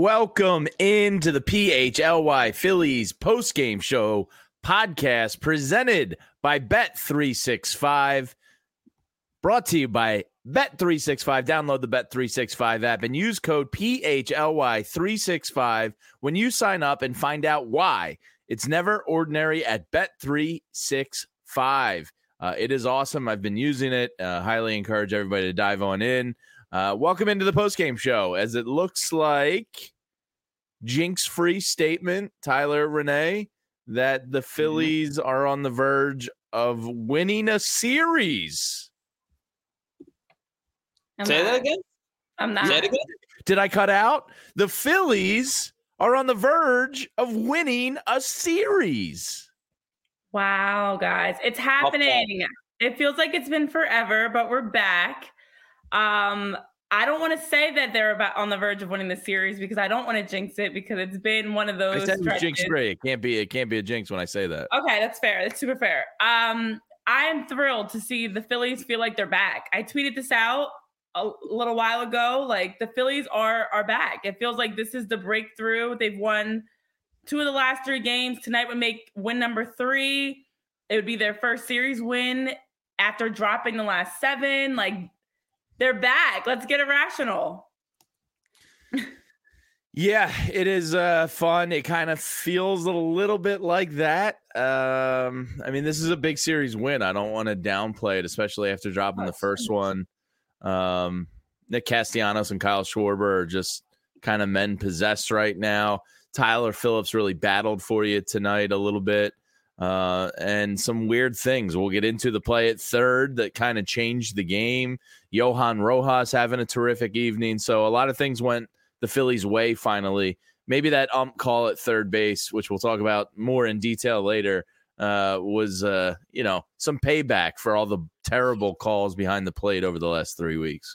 welcome into the PHLY Phillies postgame show podcast presented by Bet365. Brought to you by Bet365. Download the Bet365 app and use code PHLY365 when you sign up and find out why it's never ordinary at Bet365. It is awesome. I've been using it. Highly encourage everybody to dive on in. Welcome into the postgame show. As it looks like jinx-free statement, Tyler, Renee, that the Phillies are on the verge of winning a series. Say that again? I'm not. Say it again? Did I cut out? The Phillies are on the verge of winning a series. Wow, guys. It's happening. It feels like it's been forever, but we're back. I don't want to say that they're about on the verge of winning the series because I don't want to jinx it because it's been one of those. I said it was jinx-free. It can't be a jinx when I say that. Okay, that's fair. That's super fair. I am thrilled to see the Phillies feel like they're back. I tweeted this out a little while ago. Like, the Phillies are back. It feels like this is the breakthrough. They've won 2 of the last 3 games. Tonight would make win number 3. It would be their first series win after dropping the last 7. Like, they're back. Let's get irrational. Yeah, it is fun. It kind of feels a little bit like that. I mean, this is a big series win. I don't want to downplay it, especially after dropping the first one. Nick Castellanos and Kyle Schwarber are just kind of men possessed right now. Tyler Phillips really battled for you tonight a little bit. And some weird things. We'll get into the play at third that kind of changed the game. Johan Rojas having a terrific evening. So a lot of things went the Phillies' way finally. Maybe that call at third base, which we'll talk about more in detail later, was some payback for all the terrible calls behind the plate over the last 3 weeks.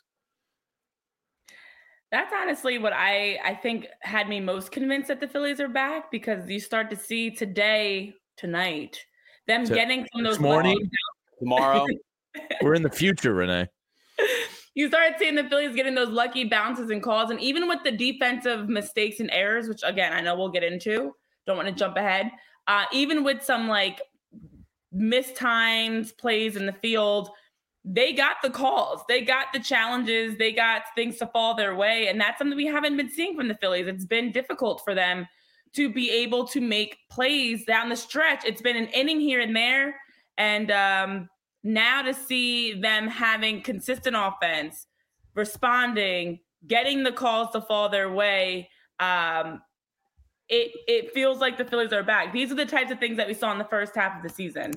That's honestly what I think had me most convinced that the Phillies are back, because you start to see tonight, them getting from those morning, tomorrow. We're in the future, Renee. You started seeing the Phillies getting those lucky bounces and calls, and even with the defensive mistakes and errors, which again I know we'll get into. Don't want to jump ahead. Even with some like mistimed plays in the field, they got the calls, they got the challenges, they got things to fall their way, and that's something we haven't been seeing from the Phillies. It's been difficult for them to be able to make plays down the stretch. It's been an inning here and there. And now to see them having consistent offense, responding, getting the calls to fall their way, it feels like the Phillies are back. These are the types of things that we saw in the first half of the season.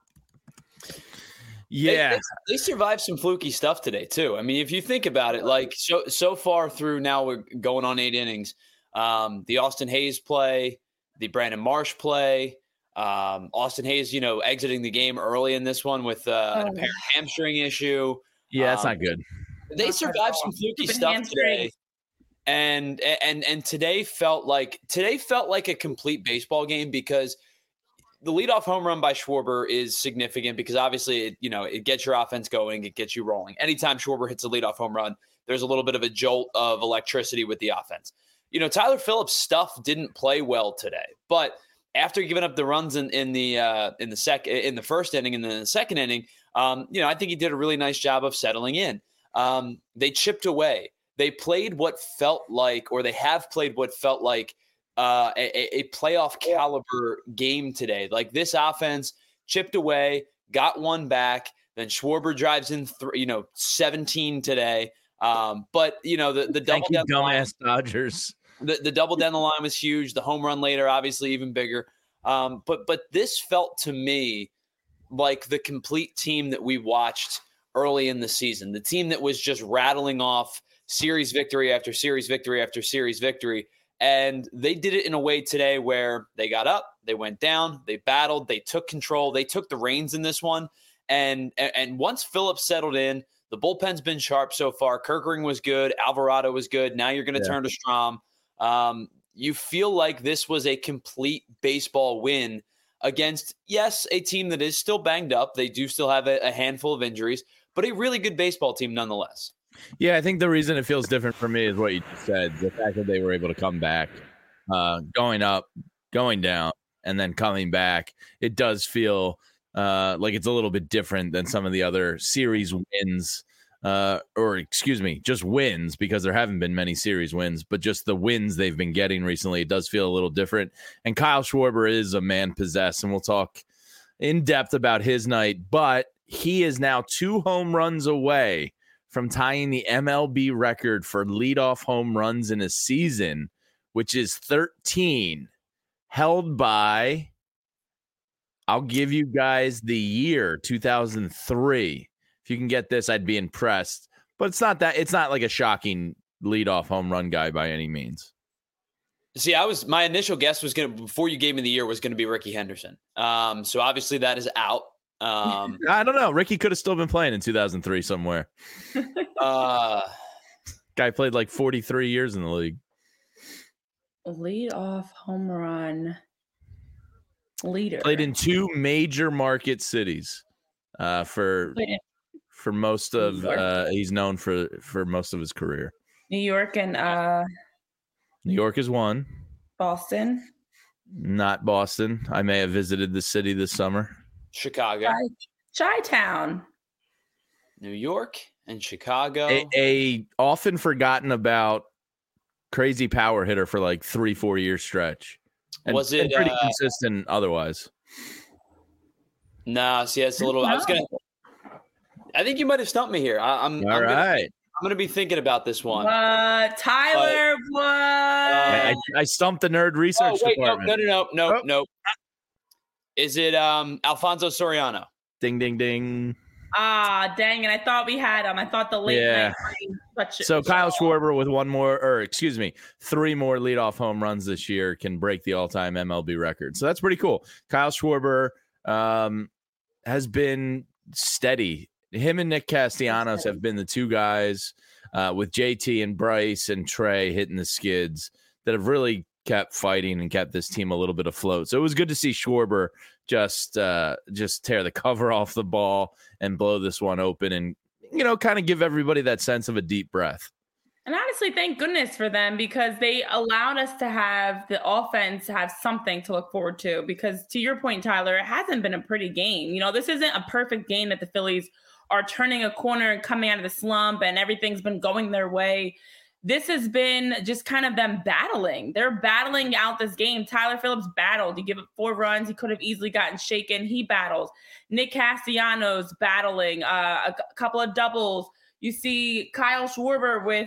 Yeah. They survived some fluky stuff today, too. I mean, if you think about it, like so far through now, we're going on 8 innings. The Austin Hayes play, the Brandon Marsh play, Austin Hayes, exiting the game early in this one with an apparent hamstring issue. Yeah, that's not good. They survived some fluky stuff today. And today felt like a complete baseball game, because the leadoff home run by Schwarber is significant, because obviously it gets your offense going, it gets you rolling. Anytime Schwarber hits a leadoff home run, there's a little bit of a jolt of electricity with the offense. Tyler Phillips' stuff didn't play well today, but after giving up the runs in the first inning and then the second inning, I think he did a really nice job of settling in. They chipped away. They played what felt like, or they have played what felt like a playoff caliber game today. Like, this offense chipped away, got one back, then Schwarber drives in 17 today. But the double down dumbass Dodgers. The double down the line was huge. The home run later, obviously, even bigger. But this felt to me like the complete team that we watched early in the season. The team that was just rattling off series victory after series victory after series victory. And they did it in a way today where they got up, they went down, they battled, they took control, they took the reins in this one. And once Phillips settled in, the bullpen's been sharp so far. Kerkering was good. Alvarado was good. Now you're going to turn to Strahm. You feel like this was a complete baseball win against, yes, a team that is still banged up. They do still have a handful of injuries, but a really good baseball team nonetheless. Yeah, I think the reason it feels different for me is what you just said. The fact that they were able to come back, going up, going down, and then coming back. It does feel like it's a little bit different than some of the other series wins. Or excuse me, just wins, because there haven't been many series wins, but just the wins they've been getting recently, it does feel a little different. And Kyle Schwarber is a man possessed, and we'll talk in depth about his night, but he is now 2 home runs away from tying the MLB record for leadoff home runs in a season, which is 13, held by, I'll give you guys the year, 2003. If you can get this, I'd be impressed. But it's not like a shocking leadoff home run guy by any means. See, my initial guess was before you gave me the year, was gonna be Ricky Henderson. So obviously that is out. I don't know. Ricky could have still been playing in 2003 somewhere. Guy played like 43 years in the league. Leadoff home run leader. Played in 2 major market cities. For most of he's known for most of his career. New York and New York is 1. Boston. Not Boston. I may have visited the city this summer. Chicago. Chi-Town. New York and Chicago. A often forgotten about crazy power hitter for like 3-4 year stretch. And, was it pretty consistent otherwise? Nah, see, it's a little. I think you might have stumped me here. I'm gonna be thinking about this one. Tyler, what? I stumped the nerd research department. No. Is it Alfonso Soriano? Ding, ding, ding. Dang it. I thought we had him. I thought the late night. So Kyle Schwarber with 3 more leadoff home runs this year can break the all-time MLB record. So that's pretty cool. Kyle Schwarber has been steady. Him and Nick Castellanos have been the 2 guys with JT and Bryce and Trey hitting the skids that have really kept fighting and kept this team a little bit afloat. So it was good to see Schwarber just tear the cover off the ball and blow this one open and, kind of give everybody that sense of a deep breath. And honestly, thank goodness for them, because they allowed us to have the offense have something to look forward to. Because to your point, Tyler, it hasn't been a pretty game. This isn't a perfect game that the Phillies are turning a corner and coming out of the slump and everything's been going their way. This has been just kind of them battling. They're battling out this game. Tyler Phillips battled. He gave up 4 runs. He could have easily gotten shaken. He battles. Nick Castellanos battling a couple of doubles. You see Kyle Schwarber with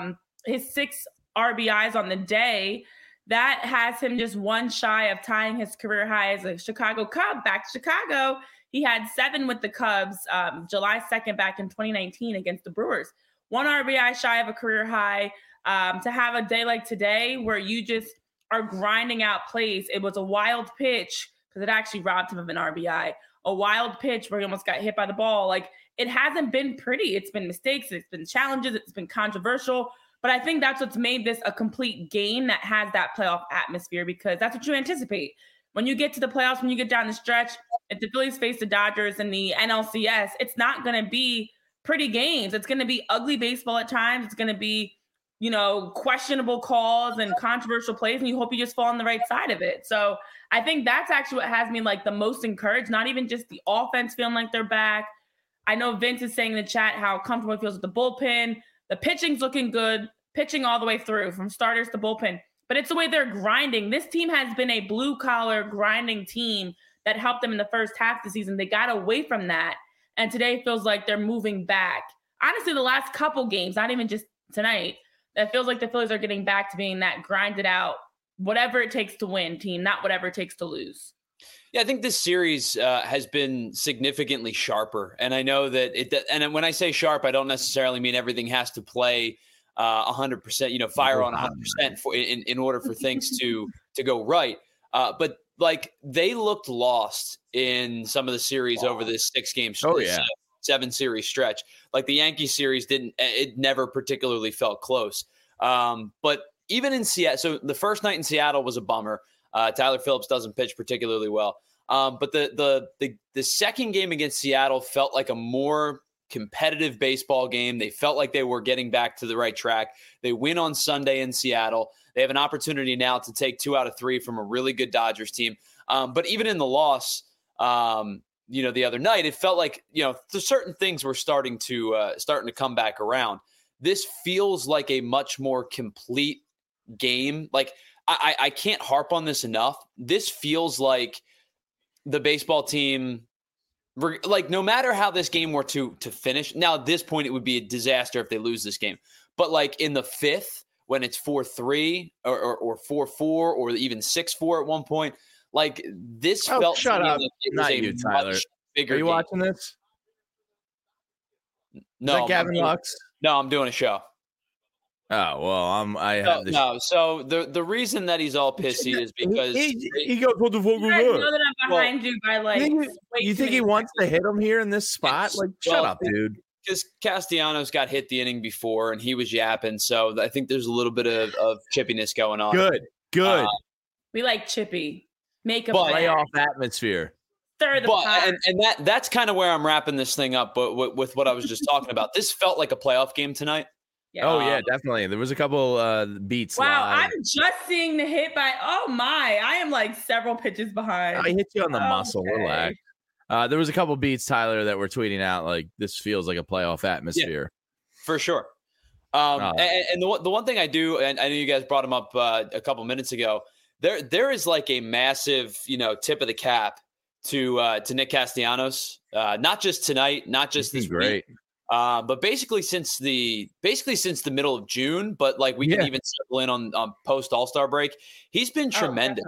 his 6 RBIs on the day. That has him just 1 shy of tying his career high as a Chicago Cub. Back to Chicago. He had 7 with the Cubs July 2nd back in 2019 against the Brewers. 1 RBI shy of a career high. To have a day like today where you just are grinding out plays. It was a wild pitch because it actually robbed him of an RBI. A wild pitch where he almost got hit by the ball. Like, it hasn't been pretty. It's been mistakes. It's been challenges. It's been controversial. But I think that's what's made this a complete game that has that playoff atmosphere, because that's what you anticipate. When you get to the playoffs, when you get down the stretch, if the Phillies face the Dodgers in the NLCS, it's not going to be pretty games. It's going to be ugly baseball at times. It's going to be, questionable calls and controversial plays, and you hope you just fall on the right side of it. So I think that's actually what has me the most encouraged, not even just the offense feeling like they're back. I know Vince is saying in the chat how comfortable he feels with the bullpen. The pitching's looking good, pitching all the way through from starters to bullpen. But it's the way they're grinding. This team has been a blue-collar grinding team that helped them in the first half of the season. They got away from that. And today feels like they're moving back. Honestly, the last couple games, not even just tonight, that feels like the Phillies are getting back to being that grinded out, whatever it takes to win team, not whatever it takes to lose. Yeah, I think this series has been significantly sharper. And I know that and when I say sharp, I don't necessarily mean everything has to play 100%, fire on 100% in order for things to go right. But they looked lost in some of the series over this 6-game stretch. 7-series stretch. Like the Yankees series it never particularly felt close. But even in Seattle, so the first night in Seattle was a bummer. Tyler Phillips doesn't pitch particularly well. But the second game against Seattle felt like a more competitive baseball game. They felt like they were getting back to the right track. They win on Sunday in Seattle. They have an opportunity now to take 2 out of 3 from a really good Dodgers team. But even in the loss, the other night, it felt like, certain things were starting to come back around. This feels like a much more complete game. Like, I can't harp on this enough. This feels like the baseball team, like, no matter how this game were to finish, now at this point, it would be a disaster if they lose this game. But like in the 5th, when it's 4-3 or 4-4 or even 6-4 at one point, like this felt shut up. Like it was Not a you, Tyler. much bigger Are you game. watching this? No, Is that Gavin Lux? No, I'm doing a show. Oh, well, I have this. No, so the reason that he's all pissy is because he goes, what the fuck You guys know that I'm behind you by like. You think he wants to hit him here in this spot? Like, shut up, dude. Because Castellanos got hit the inning before and he was yapping, so I think there's a little bit of chippiness going on. Good. We like chippy. Make a playoff atmosphere. Stir the pot. And that's kind of where I'm wrapping this thing up. But with what I was just talking about, this felt like a playoff game tonight. Yeah. Oh yeah, definitely. There was a couple beats. Wow, live. I'm just seeing the hit by. Oh my, I am like several pitches behind. I hit you on the muscle. Relax. There was a couple beats, Tyler, that were tweeting out like this feels like a playoff atmosphere. Yeah, for sure. And the one thing I do, and I know you guys brought him up a couple minutes ago. There is like a massive, tip of the cap to Nick Castellanos. Not just tonight, not just this week. But basically since the middle of June, but like we can even circle in on post All-Star break, he's been tremendous.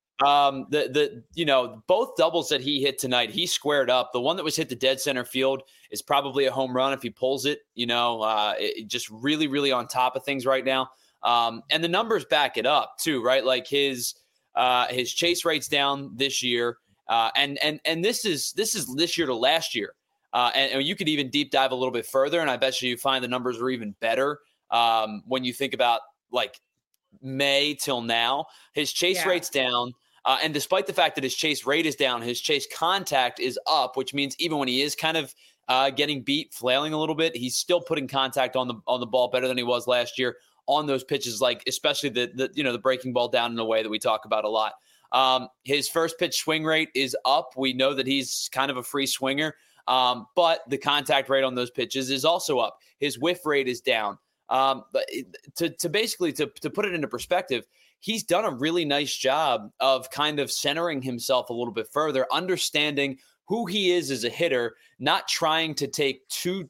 Both doubles that he hit tonight, he squared up. The one that was hit to dead center field is probably a home run if he pulls it. It just really, really on top of things right now. And the numbers back it up too, right? Like his chase rate's down this year, and this is this year to last year. And you could even deep dive a little bit further, and I bet you find the numbers are even better when you think about like May till now. His chase rate's down, and despite the fact that his chase rate is down, his chase contact is up, which means even when he is kind of getting beat, flailing a little bit, he's still putting contact on the ball better than he was last year on those pitches, like especially the breaking ball down in a way that we talk about a lot. His first pitch swing rate is up. We know that he's kind of a free swinger. But the contact rate on those pitches is also up. His whiff rate is down. But to basically put it into perspective, he's done a really nice job of kind of centering himself a little bit further, understanding who he is as a hitter, not trying to get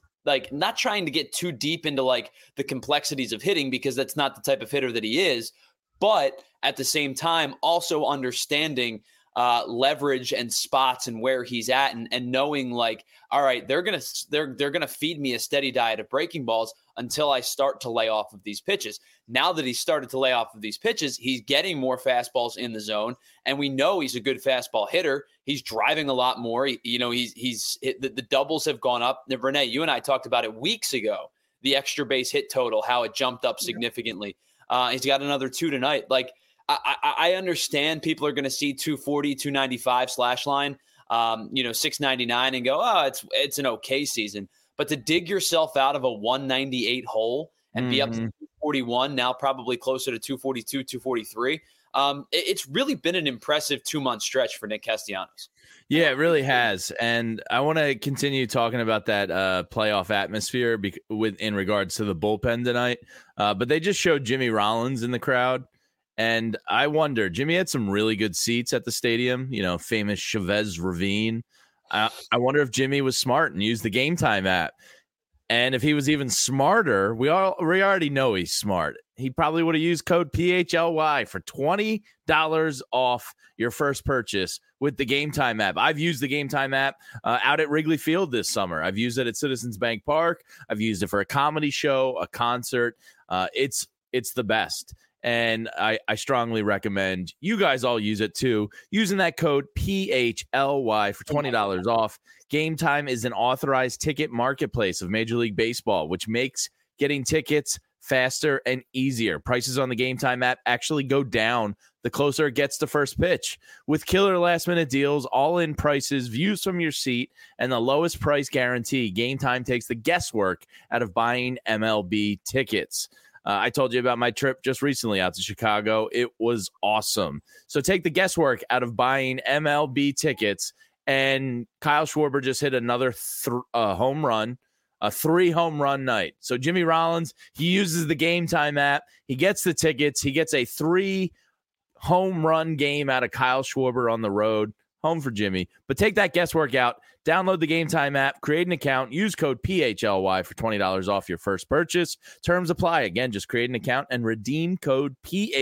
too deep into like the complexities of hitting, because that's not the type of hitter that he is. But at the same time, also understanding leverage and spots and where he's at, and knowing like, all right, they're gonna feed me a steady diet of breaking balls until I start to lay off of these pitches. Now that he's started to lay off of these pitches, he's getting more fastballs in the zone, and we know he's a good fastball hitter. He's driving a lot more. The doubles have gone up. Now, Renee, you and I talked about it weeks ago. The extra base hit total, how it jumped up significantly. He's got another 2 tonight. Like, I understand people are going to see 240, 295 slash line, 699 and go, oh, it's an okay season. But to dig yourself out of a 198 hole and be up to 241, now probably closer to 242, 243, it's really been an impressive 2-month stretch for Nick Castellanos. Yeah, it really has. And I want to continue talking about that playoff atmosphere in regards to the bullpen tonight. But they just showed Jimmy Rollins in the crowd. And I wonder, Jimmy had some really good seats at the stadium, famous Chavez Ravine. I wonder if Jimmy was smart and used the Game Time app. And if he was even smarter, we already know he's smart. He probably would have used code PHLY for $20 off your first purchase with the Game Time app. I've used the Game Time app out at Wrigley Field this summer. I've used it at Citizens Bank Park. I've used it for a comedy show, a concert. It's the best. And I strongly recommend you guys all use it too. Using that code PHLY for $20 off. Game Time is an authorized ticket marketplace of Major League Baseball, which makes getting tickets faster, and easier. Prices on the Game Time app actually go down the closer it gets to first pitch. With killer last-minute deals, all-in prices, views from your seat, and the lowest price guarantee, Game Time takes the guesswork out of buying MLB tickets. I told you about my trip just recently out to Chicago. It was awesome. So take the guesswork out of buying MLB tickets, and Kyle Schwarber just hit another home run. A 3-home run night. So Jimmy Rollins, he uses the Game Time app. He gets the tickets. He gets a 3-home run game out of Kyle Schwarber on the road. Home for Jimmy. But take that guesswork out. Download the Game Time app. Create an account. Use code PHLY for $20 off your first purchase. Terms apply. Again, just create an account and redeem code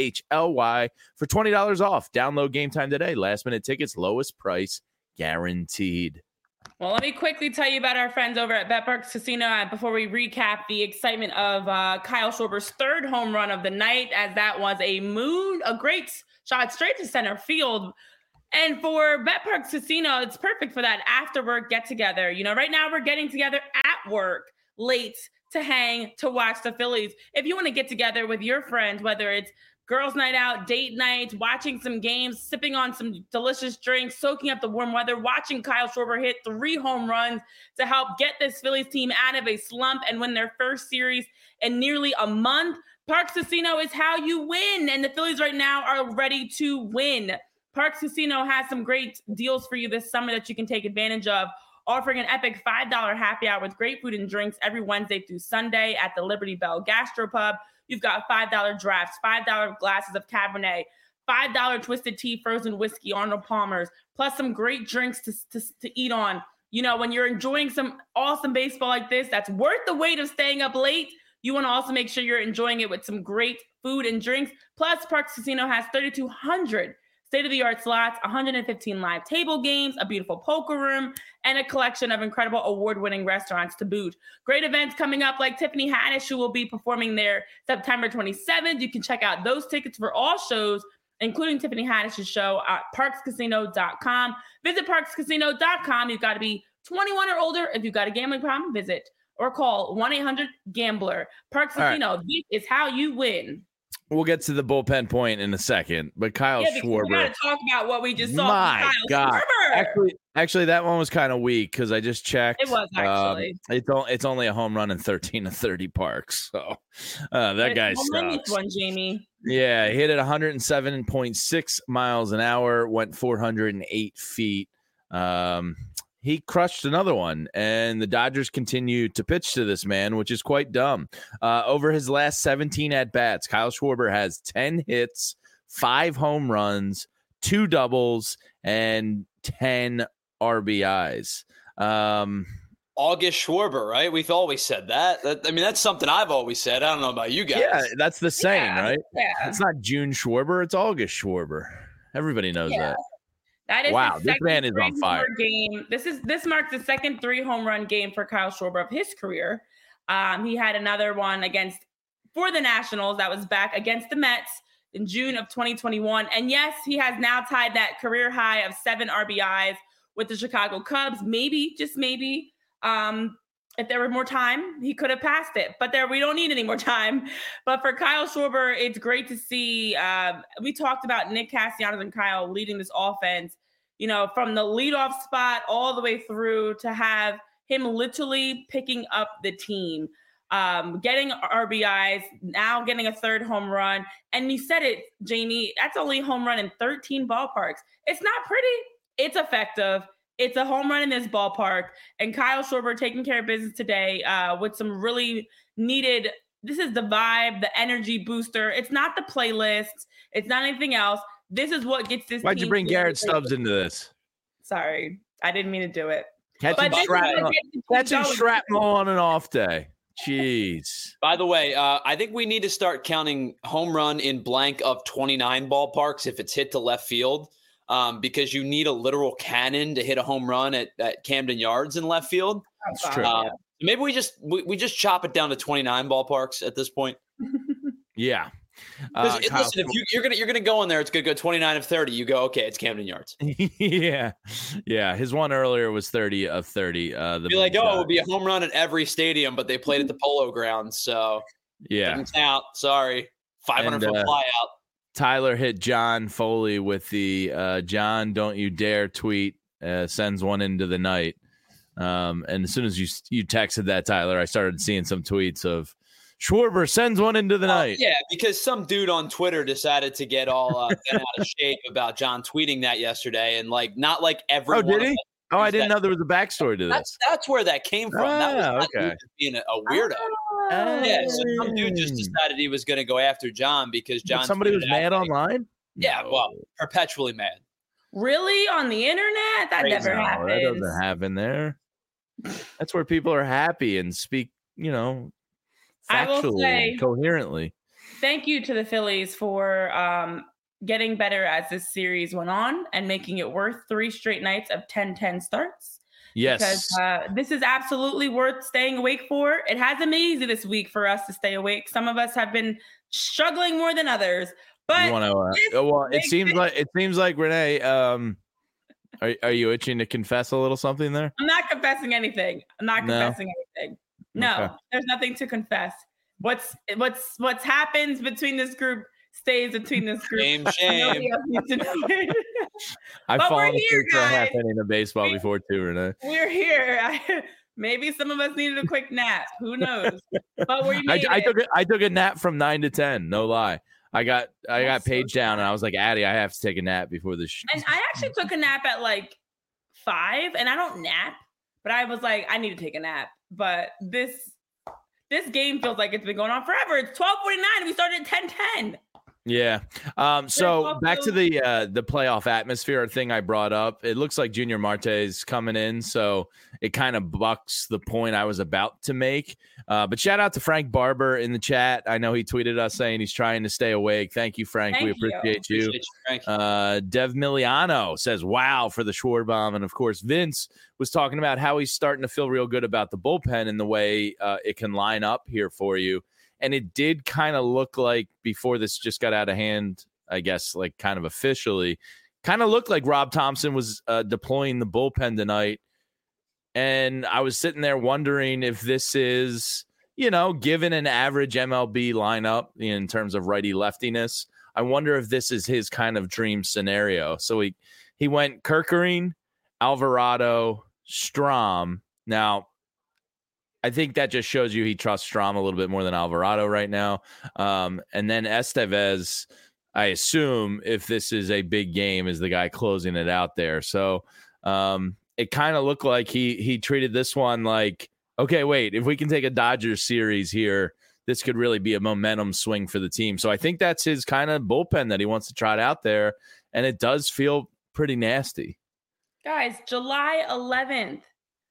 PHLY for $20 off. Download Game Time today. Last-minute tickets, lowest price guaranteed. Well, let me quickly tell you about our friends over at BetParx Casino before we recap the excitement of Kyle Schwarber's 3rd home run of the night, as that was a great shot straight to center field. And for BetParx Casino, it's perfect for that after work get together. You know, right now we're getting together at work late to hang, to watch the Phillies. If you want to get together with your friends, whether it's girls' night out, date night, watching some games, sipping on some delicious drinks, soaking up the warm weather, watching Kyle Schwarber hit 3 home runs to help get this Phillies team out of a slump and win their first series in nearly a month. Parx Casino is how you win, and the Phillies right now are ready to win. Parx Casino has some great deals for you this summer that you can take advantage of, offering an epic $5 happy hour with great food and drinks every Wednesday through Sunday at the Liberty Bell Gastropub. You've got $5 drafts, $5 glasses of Cabernet, $5 Twisted Tea, frozen whiskey, Arnold Palmer's, plus some great drinks to eat on. You know, when you're enjoying some awesome baseball like this, that's worth the wait of staying up late. You want to also make sure you're enjoying it with some great food and drinks. Plus, Parx Casino has 3,200 state-of-the-art slots, 115 live table games, a beautiful poker room, and a collection of incredible award-winning restaurants to boot. Great events coming up like Tiffany Haddish, who will be performing there September 27th. You can check out those tickets for all shows, including Tiffany Haddish's show at parxcasino.com. Visit parxcasino.com. You've got to be 21 or older. If you've got a gambling problem, visit or call 1-800-GAMBLER. Parx Casino, this is how you win. We'll get to the bullpen point in a second, but Kyle Schwarber. We got to talk about what we just saw. My God! Actually, that one was kind of weak because I just checked. It was actually. It's only a home run in 13 of 30 parks. So that guy sucks. One, Jamie. Yeah, he hit it 107.6 miles an hour, went 408 feet. He crushed another one, and the Dodgers continue to pitch to this man, which is quite dumb. Over his last 17 at-bats, Kyle Schwarber has 10 hits, 5 home runs, 2 doubles, and 10 RBIs. August Schwarber, right? We've always said that. That's something I've always said. I don't know about you guys. Yeah, that's the saying, right? Yeah. It's not June Schwarber, it's August Schwarber. Everybody knows that. That is wow, this man is on fire. Game. This marks the second 3-home run game for Kyle Schwarber of his career. He had another one for the Nationals that was back against the Mets in June of 2021. And yes, he has now tied that career high of 7 RBIs with the Chicago Cubs. Maybe, just maybe, if there were more time, he could have passed it. But we don't need any more time. But for Kyle Schwarber, it's great to see. We talked about Nick Castellanos and Kyle leading this offense, you know, from the leadoff spot all the way through to have him literally picking up the team, getting RBIs, now getting a 3rd home run. And you said it, Jamie, that's only a home run in 13 ballparks. It's not pretty. It's effective. It's a home run in this ballpark. And Kyle Schwarber taking care of business today with some really needed, this is the vibe, the energy booster. It's not the playlist. It's not anything else. This is what gets this. Why'd you bring Garrett Stubbs into this? Sorry, I didn't mean to do it. Catching shrapnel on an off day. Jeez. By the way, I think we need to start counting home run in blank of 29 ballparks if it's hit to left field, because you need a literal cannon to hit a home run at Camden Yards in left field. That's true. Maybe we just chop it down to 29 ballparks at this point. Yeah. Listen, if you're gonna go in there, it's gonna go 29 of 30. You go, okay, it's Camden Yards. yeah. His one earlier was 30 of 30. It would be a home run at every stadium, but they played at the Polo Grounds. So Yeah. Doesn't count. Sorry. 500-foot fly out. Tyler hit John Foley with the John, don't you dare tweet, sends one into the night. And as soon as you texted that, Tyler, I started seeing some tweets of Schwarber sends one into the night. Yeah, because some dude on Twitter decided to get all bent out of shape about John tweeting that yesterday. And not like everyone. Oh, did he? Oh, I didn't know there was a backstory to this. That's where that came from. That was not being a weirdo. Yeah, so some dude just decided he was going to go after John because John. Somebody was mad online? Yeah, well, perpetually mad. Really? On the internet? That never happens. That doesn't happen there. That's where people are happy and speak, factually and coherently. Thank you to the Phillies for getting better as this series went on and making it worth 3 straight nights of 10-10 starts. Yes. Because this is absolutely worth staying awake for. It hasn't been easy this week for us to stay awake. Some of us have been struggling more than others. But it seems like Renee, are you itching to confess a little something there? I'm not confessing anything. No, okay. There's nothing to confess. What's happens between this group stays between this group. Shame. I've fallen asleep for a half inning of baseball before too, Renee. We're here. Maybe some of us needed a quick nap. Who knows? But I took a nap from 9 to 10. No lie. I got paged down and I was like, Addie, I have to take a nap before this. And I actually took a nap at 5, and I don't nap, but I was like, I need to take a nap. But this game feels like it's been going on forever. It's 12:49 and we started at 10:10. Yeah. So back to the playoff atmosphere thing I brought up. It looks like Junior Marte's coming in, so it kind of bucks the point I was about to make. But shout out to Frank Barber in the chat. I know he tweeted us saying he's trying to stay awake. Thank you, Frank. We appreciate you. Frank. Dev Miliano says, wow, for the Schwarber. And of course, Vince was talking about how he's starting to feel real good about the bullpen and the way it can line up here for you. And it did kind of look like before this just got out of hand, I guess, kind of officially, kind of looked like Rob Thompson was deploying the bullpen tonight. And I was sitting there wondering if this is, given an average MLB lineup in terms of righty-leftiness, I wonder if this is his kind of dream scenario. So he went Kerkering, Alvarado, Strahm. Now, I think that just shows you he trusts Strahm a little bit more than Alvarado right now. And then Estevez, I assume, if this is a big game, is the guy closing it out there. So it kind of looked like he treated this one like, okay, wait, if we can take a Dodgers series here, this could really be a momentum swing for the team. So I think that's his kind of bullpen that he wants to trot out there. And it does feel pretty nasty. Guys, July 11th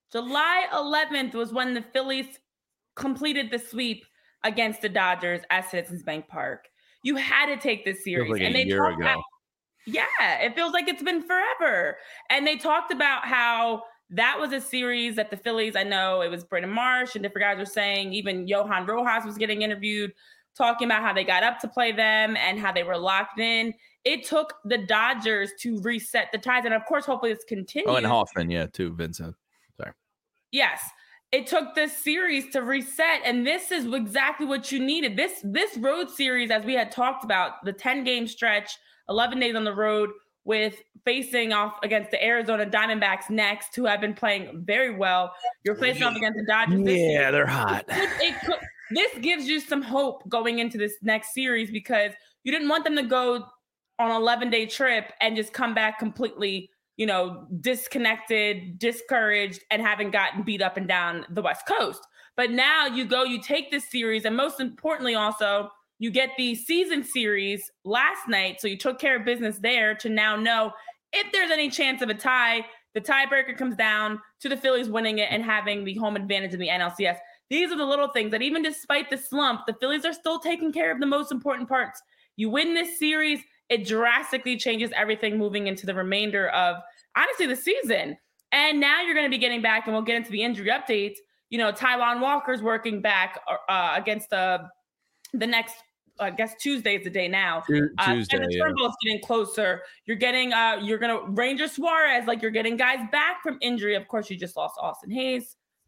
was when the Phillies completed the sweep against the Dodgers at Citizens Bank Park. You had to take this series. Like a year ago. It feels like it's been forever. And they talked about how that was a series that the Phillies, I know it was Brendan Marsh and different guys were saying, even Johan Rojas was getting interviewed, talking about how they got up to play them and how they were locked in. It took the Dodgers to reset the ties. And of course, hopefully it's continued. Oh, and Hoffman, too, Vincent. Sorry. Yes. It took this series to reset, and this is exactly what you needed. This road series, as we had talked about, the 10-game stretch, 11 days on the road with facing off against the Arizona Diamondbacks next, who have been playing very well. You're facing off against the Dodgers. They're hot. This gives you some hope going into this next series because you didn't want them to go on an 11-day trip and just come back completely disconnected, discouraged, and having gotten beat up and down the West Coast. But now you take this series, and most importantly also, you get the season series last night. So you took care of business there to now know if there's any chance of a tie, the tiebreaker comes down to the Phillies winning it and having the home advantage in the NLCS. These are the little things that even despite the slump, the Phillies are still taking care of the most important parts. You win this series, it drastically changes everything moving into the remainder of, honestly, the season. And now you're going to be getting back, and we'll get into the injury updates. Taijuan Walker's working back against the next, I guess Tuesday is the day now. Tuesday, and the Turnbull's getting closer. You're getting, Ranger Suarez, you're getting guys back from injury. Of course, you just lost Austin Hayes.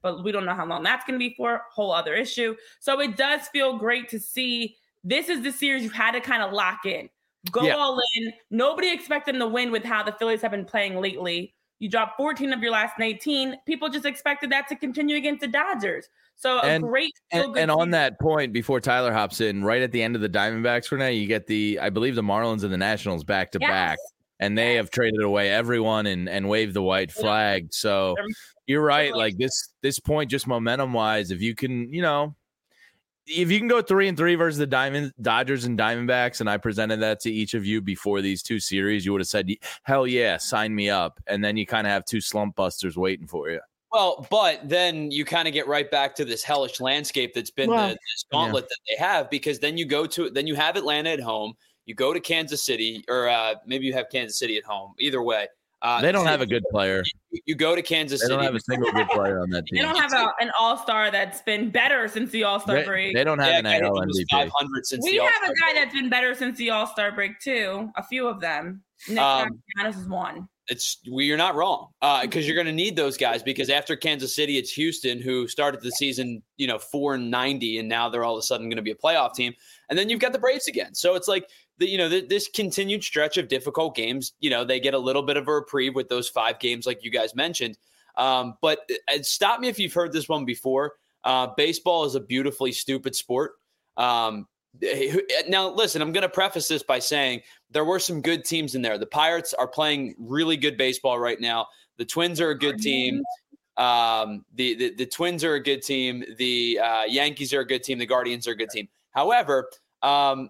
but we don't know how long that's going to be for. Whole other issue. So it does feel great to see. This is the series you had to kind of lock in. Go all in. Nobody expected them to win with how the Phillies have been playing lately. You dropped 14 of your last 18. People just expected that to continue against the Dodgers. So great. And on that point, before Tyler hops in, right at the end of the Diamondbacks for now, you get I believe the Marlins and the Nationals back to back, and they have traded away everyone and waved the white flag. So you're right. Like this point, just momentum wise, if you can go 3-3 versus the Dodgers and Diamondbacks, and I presented that to each of you before these two series, you would have said, hell yeah, sign me up. And then you kind of have two slump busters waiting for you. Well, but then you kind of get right back to this hellish landscape that's been this gauntlet that they have, because then you have Atlanta at home, you go to Kansas City, or maybe you have Kansas City at home. Either way. They don't have a good player. You go to Kansas City. They don't have a single good player on that team. They don't have an all-star that's been better since the all-star break. They don't have an AL MVP. 500 since we have a guy that's been better since the all-star break, too. A few of them. Nick Castellanos is one. You're not wrong, because you're going to need those guys, because after Kansas City, it's Houston, who started the season 4-90, and now they're all of a sudden going to be a playoff team. And then you've got the Braves again. So it's like this continued stretch of difficult games. They get a little bit of a reprieve with those 5 games, like you guys mentioned. But stop me if you've heard this one before. Baseball is a beautifully stupid sport. Now, listen, I'm going to preface this by saying there were some good teams in there. The Pirates are playing really good baseball right now. The Twins are a good team. The Twins are a good team. The Yankees are a good team. The Guardians are a good team. However, the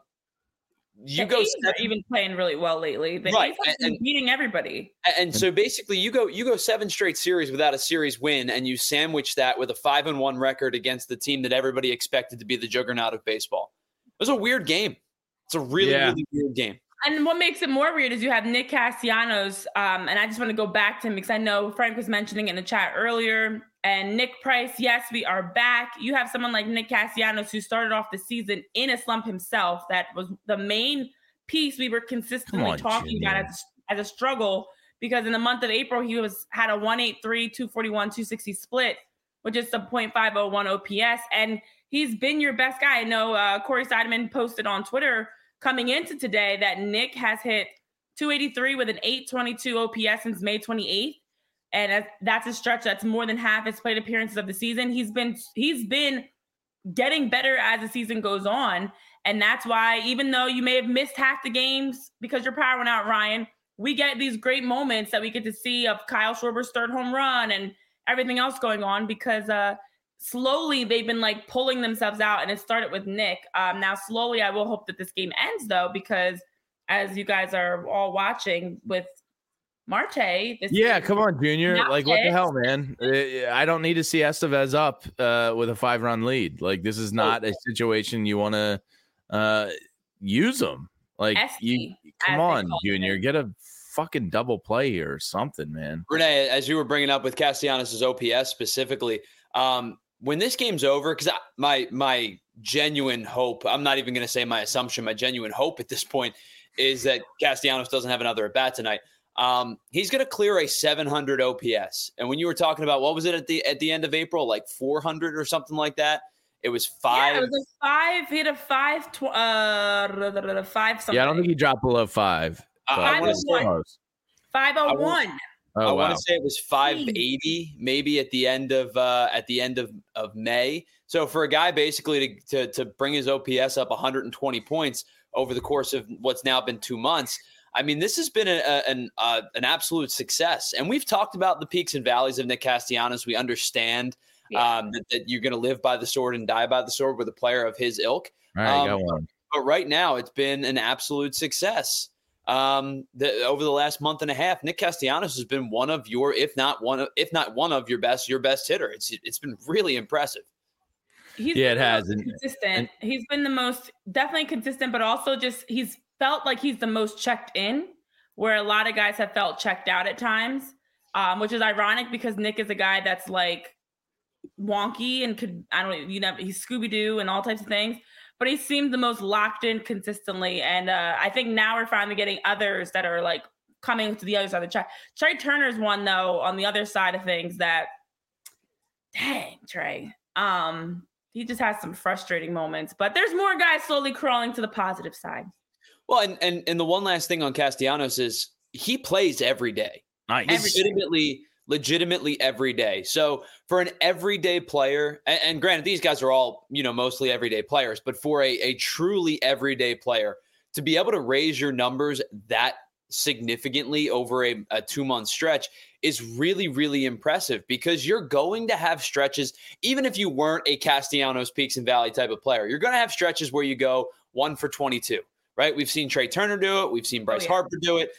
A's are even playing really well lately. The A's have been beating everybody. And so basically, you go 7 straight series without a series win, and you sandwich that with a 5-1 record against the team that everybody expected to be the juggernaut of baseball. It was a weird game. It's a really, really weird game. And what makes it more weird is you have Nick Castellanos, and I just want to go back to him because I know Frank was mentioning in the chat earlier, and Nick Price, yes, we are back. You have someone like Nick Castellanos who started off the season in a slump himself. That was the main piece we were consistently talking about as a struggle, because in the month of April, he had a 1.83, 241, 260 split, which is a .501 OPS, and he's been your best guy. I know Corey Seidemann posted on Twitter coming into today that Nick has hit 283 with an 822 OPS since May 28th. And that's a stretch that's more than half his plate appearances of the season. He's been getting better as the season goes on. And that's why, even though you may have missed half the games because your power went out, Ryan, we get these great moments that we get to see of Kyle Schwarber's third home run and everything else going on, because slowly they've been like pulling themselves out, and it started with Nick. Now slowly I will hope that this game ends, though, because as you guys are all watching with Marte. Come on, Junior. Like, what the hell, man? I don't need to see Estevez up with a 5-run lead. Like, this is not a situation you want to use them. Like, come on, Junior. Get a fucking double play here or something, man. Renee, as you were bringing up with Castellanos' OPS specifically, when this game's over, because my genuine hope, I'm not even going to say my assumption, my genuine hope at this point is that Castellanos doesn't have another at bat tonight. He's going to clear a 700 OPS. And when you were talking about, what was it at the end of April, like 400 or something like that? It was 5. Yeah, it was a 5. He had a 5 something. Yeah, I don't think he dropped below 5. 501. 501. I want to say it was 580, maybe at the end of May. So for a guy basically to bring his OPS up 120 points over the course of what's now been 2 months, I mean, this has been an absolute success. And we've talked about the peaks and valleys of Nick Castellanos. We understand that you're going to live by the sword and die by the sword with a player of his ilk. All right, got one. But right now, it's been an absolute success. Over the last month and a half, Nick Castellanos has been one of your, if not one of your best hitter. It's been really impressive. It has. Consistent. He's been the most definitely consistent, but also just he's felt like he's the most checked in, where a lot of guys have felt checked out at times, which is ironic because Nick is a guy that's like wonky and he's Scooby-Doo and all types of things. But he seemed the most locked in consistently. And I think now we're finally getting others that are like coming to the other side of the track. Trey Turner's one, though, on the other side of things that Dang, Trey. He just has some frustrating moments, but there's more guys slowly crawling to the positive side. Well, and the one last thing on Castellanos is he plays every day. Nice. Legitimately every day. So for an everyday player, and granted, these guys are all, mostly everyday players, but for a truly everyday player to be able to raise your numbers that significantly over a 2-month stretch is really, really impressive, because you're going to have stretches, even if you weren't a Castellanos peaks and valley type of player, you're going to have stretches where you go 1 for 22, right? We've seen Trey Turner do it. We've seen Bryce Harper do it.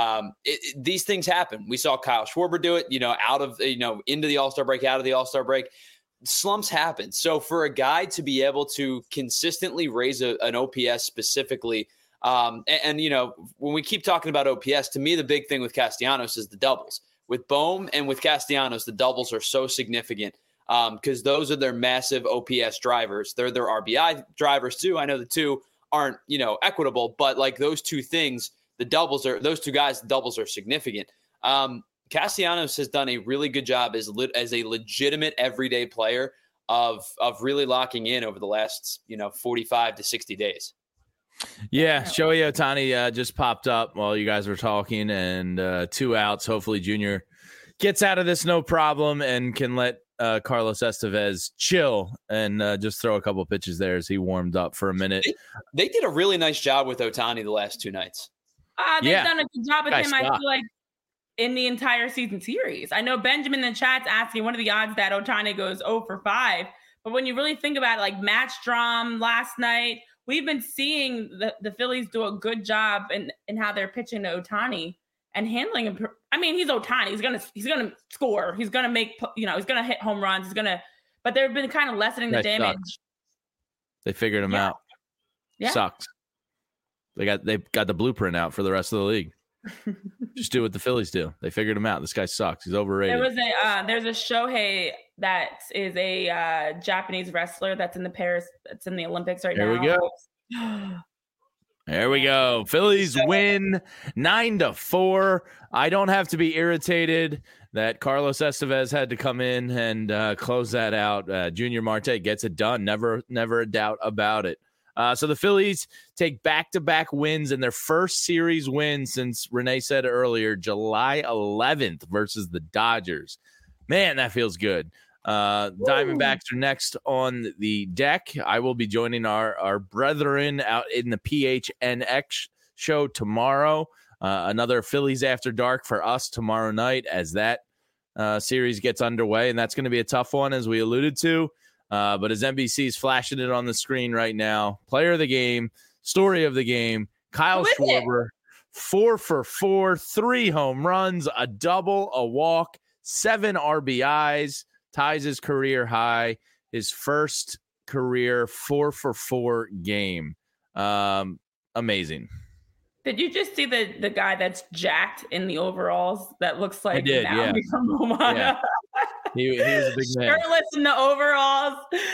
These things happen. We saw Kyle Schwarber do it, out of, into the All-Star break, out of the All-Star break. Slumps happen. So for a guy to be able to consistently raise an OPS specifically, and when we keep talking about OPS, to me, the big thing with Castellanos is the doubles. With Bohm and with Castellanos, the doubles are so significant because those are their massive OPS drivers. They're their RBI drivers too. I know the two aren't, equitable, but like those two things, those two guys, the doubles are significant. Castellanos has done a really good job as a legitimate everyday player of really locking in over the last, 45 to 60 days. Yeah, Shohei Ohtani just popped up while you guys were talking, and 2 outs. Hopefully Junior gets out of this no problem and can let Carlos Estevez chill and just throw a couple pitches there as he warmed up for a minute. They did a really nice job with Ohtani the last 2 nights. They've done a good job with him, I feel like, in the entire season series. I know Benjamin in the chat's asking what are the odds that Ohtani goes 0 for 5, but when you really think about it, like Matt Strahm last night, we've been seeing the Phillies do a good job in how they're pitching to Ohtani and handling him. I mean, he's Ohtani. He's gonna score. He's gonna make, he's gonna hit home runs. But they've been kind of lessening the damage. Sucks. They figured him out. Yeah. Sucks. They got the blueprint out for the rest of the league. Just do what the Phillies do. They figured him out. This guy sucks. He's overrated. There's a Shohei that is a Japanese wrestler that's in the Olympics right now. There we go. There we go. Phillies win 9-4. I don't have to be irritated that Carlos Estevez had to come in and close that out. Junior Marte gets it done. Never a doubt about it. So the Phillies take back-to-back wins in their first series win since Renee said earlier, July 11th versus the Dodgers. Man, that feels good. Diamondbacks are next on the deck. I will be joining our brethren out in the PHNX show tomorrow. Another Phillies After Dark for us tomorrow night as that series gets underway, and that's going to be a tough one, as we alluded to. But as NBC's flashing it on the screen right now, player of the game, story of the game, Kyle Schwarber, 4 for 4, 3 home runs, a double, a walk, 7 RBIs, ties his career high, his first career 4 for 4 game. Amazing. Did you just see the guy that's jacked in the overalls that looks like I did, yeah. from Romana? Yeah. He was a big man. Shirtless in the overalls.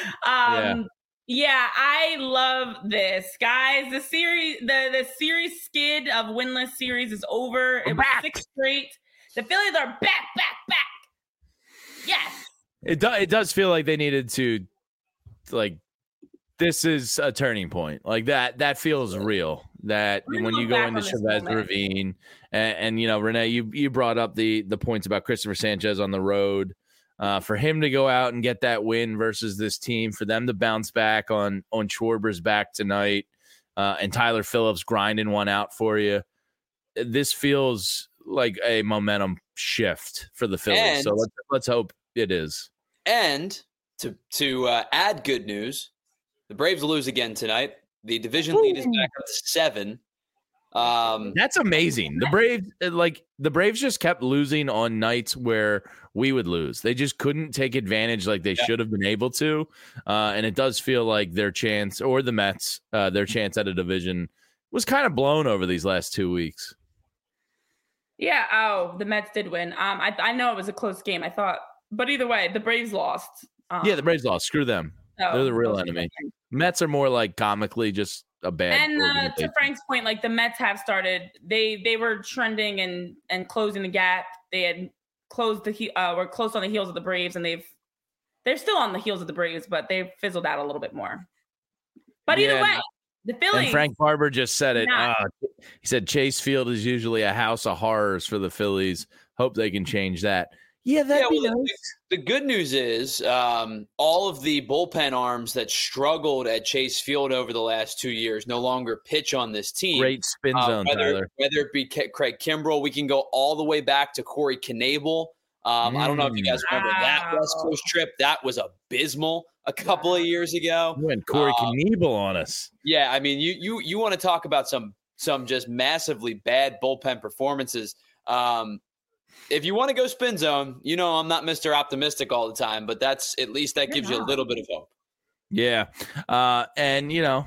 Yeah, I love this, guys. The series skid of winless series is over. It was 6 straight. The Phillies are back. Yes. It does feel like they needed to, like, this is a turning point. Like that feels real. That when you go into Chavez Ravine and Renee, you brought up the points about Christopher Sanchez on the road. For him to go out and get that win versus this team, for them to bounce back on Schwarber's back tonight, and Tyler Phillips grinding one out for you, this feels like a momentum shift for the Phillies. So let's hope it is. And to add good news, the Braves lose again tonight. The division lead is back up to 7. That's amazing. The Braves just kept losing on nights where we would lose. They just couldn't take advantage like they should have been able to. And it does feel like their chance, or the Mets, their chance at a division was kind of blown over these last 2 weeks. Yeah. Oh, the Mets did win. I know it was a close game, I thought, but either way, the Braves lost. The Braves lost. Screw them. They're the real enemy. Mets are more like comically just a bad. And to Frank's point, like the Mets have they were trending and closing the gap. They had closed were close on the heels of the Braves, and they've They're still on the heels of the Braves, but they've fizzled out a little bit more. But either way, the Phillies. And Frank Barber just said it. He said Chase Field is usually a house of horrors for the Phillies. Hope they can change that. Yeah, that'd be nice. The good news is all of the bullpen arms that struggled at Chase Field over the last 2 years no longer pitch on this team. Great spin zone, whether it be Craig Kimbrell, we can go all the way back to Corey Knebel. I don't know if you guys remember that West Coast trip. That was abysmal a couple of years ago. You went Corey Knebel on us. Yeah, I mean, you want to talk about some just massively bad bullpen performances. If you want to go spin zone, I'm not Mr. Optimistic all the time, but that gives you a little bit of hope. Yeah. And,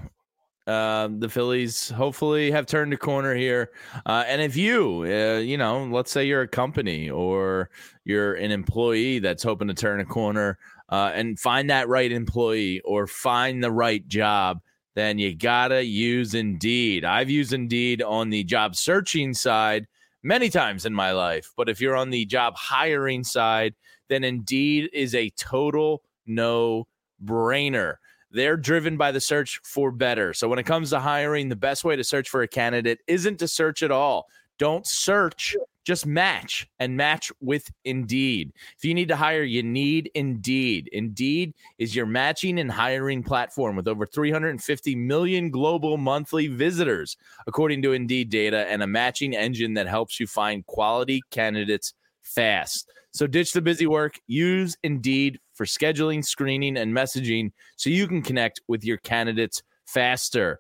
the Phillies hopefully have turned a corner here. And if let's say you're a company or you're an employee that's hoping to turn a corner and find that right employee or find the right job, then you got to use Indeed. I've used Indeed on the job searching side many times in my life. But if you're on the job hiring side, then Indeed is a total no-brainer. They're driven by the search for better. So when it comes to hiring, the best way to search for a candidate isn't to search at all. Don't search, just match, and match with Indeed. If you need to hire, you need Indeed. Indeed is your matching and hiring platform with over 350 million global monthly visitors, according to Indeed data, and a matching engine that helps you find quality candidates fast. So ditch the busy work. Use Indeed for scheduling, screening, and messaging so you can connect with your candidates faster.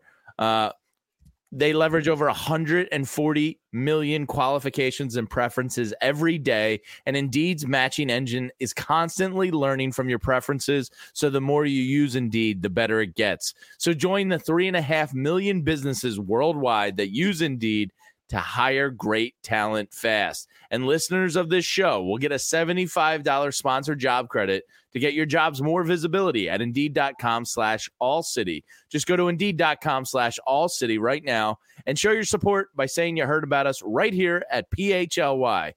They leverage over 140 million qualifications and preferences every day, and Indeed's matching engine is constantly learning from your preferences, so the more you use Indeed, the better it gets. So join the 3.5 million businesses worldwide that use Indeed to hire great talent fast. And listeners of this show will get a $75 sponsored job credit to get your jobs more visibility at Indeed.com/AllCity. Just go to Indeed.com/AllCity right now and show your support by saying you heard about us right here at PHLY.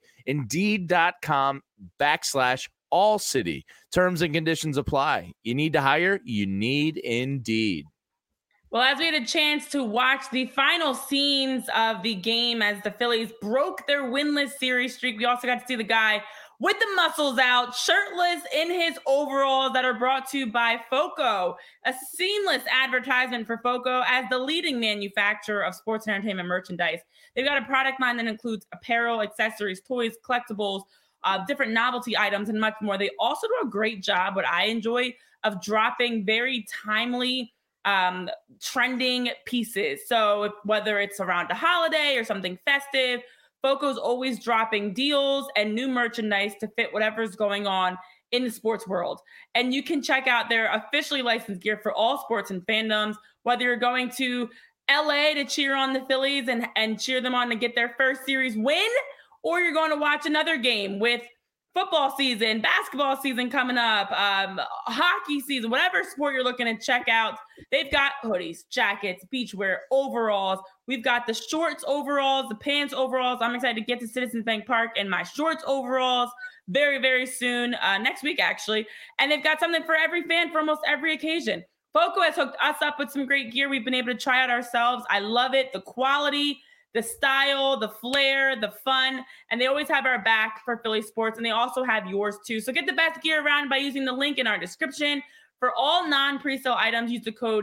Indeed.com/AllCity. Terms and conditions apply. You need to hire? You need Indeed. Well, as we had a chance to watch the final scenes of the game as the Phillies broke their winless series streak, we also got to see the guy with the muscles out, shirtless in his overalls that are brought to you by FOCO, a seamless advertisement for FOCO as the leading manufacturer of sports and entertainment merchandise. They've got a product line that includes apparel, accessories, toys, collectibles, different novelty items, and much more. They also do a great job, what I enjoy, of dropping very timely trending pieces. So whether it's around a holiday or something festive, FOCO's always dropping deals and new merchandise to fit whatever's going on in the sports world. And you can check out their officially licensed gear for all sports and fandoms, whether you're going to LA to cheer on the Phillies and cheer them on to get their first series win, or you're going to watch another game with football season, basketball season coming up, hockey season, whatever sport you're looking to check out. They've got hoodies, jackets, beachwear, overalls. We've got the shorts overalls, the pants overalls. I'm excited to get to Citizens Bank Park in my shorts overalls very, very soon, next week actually. And they've got something for every fan for almost every occasion. FOCO has hooked us up with some great gear we've been able to try out ourselves. I love it. The quality, the style, the flair, the fun, and they always have our back for Philly sports, and they also have yours too. So get the best gear around by using the link in our description. For all non-presale items, use the code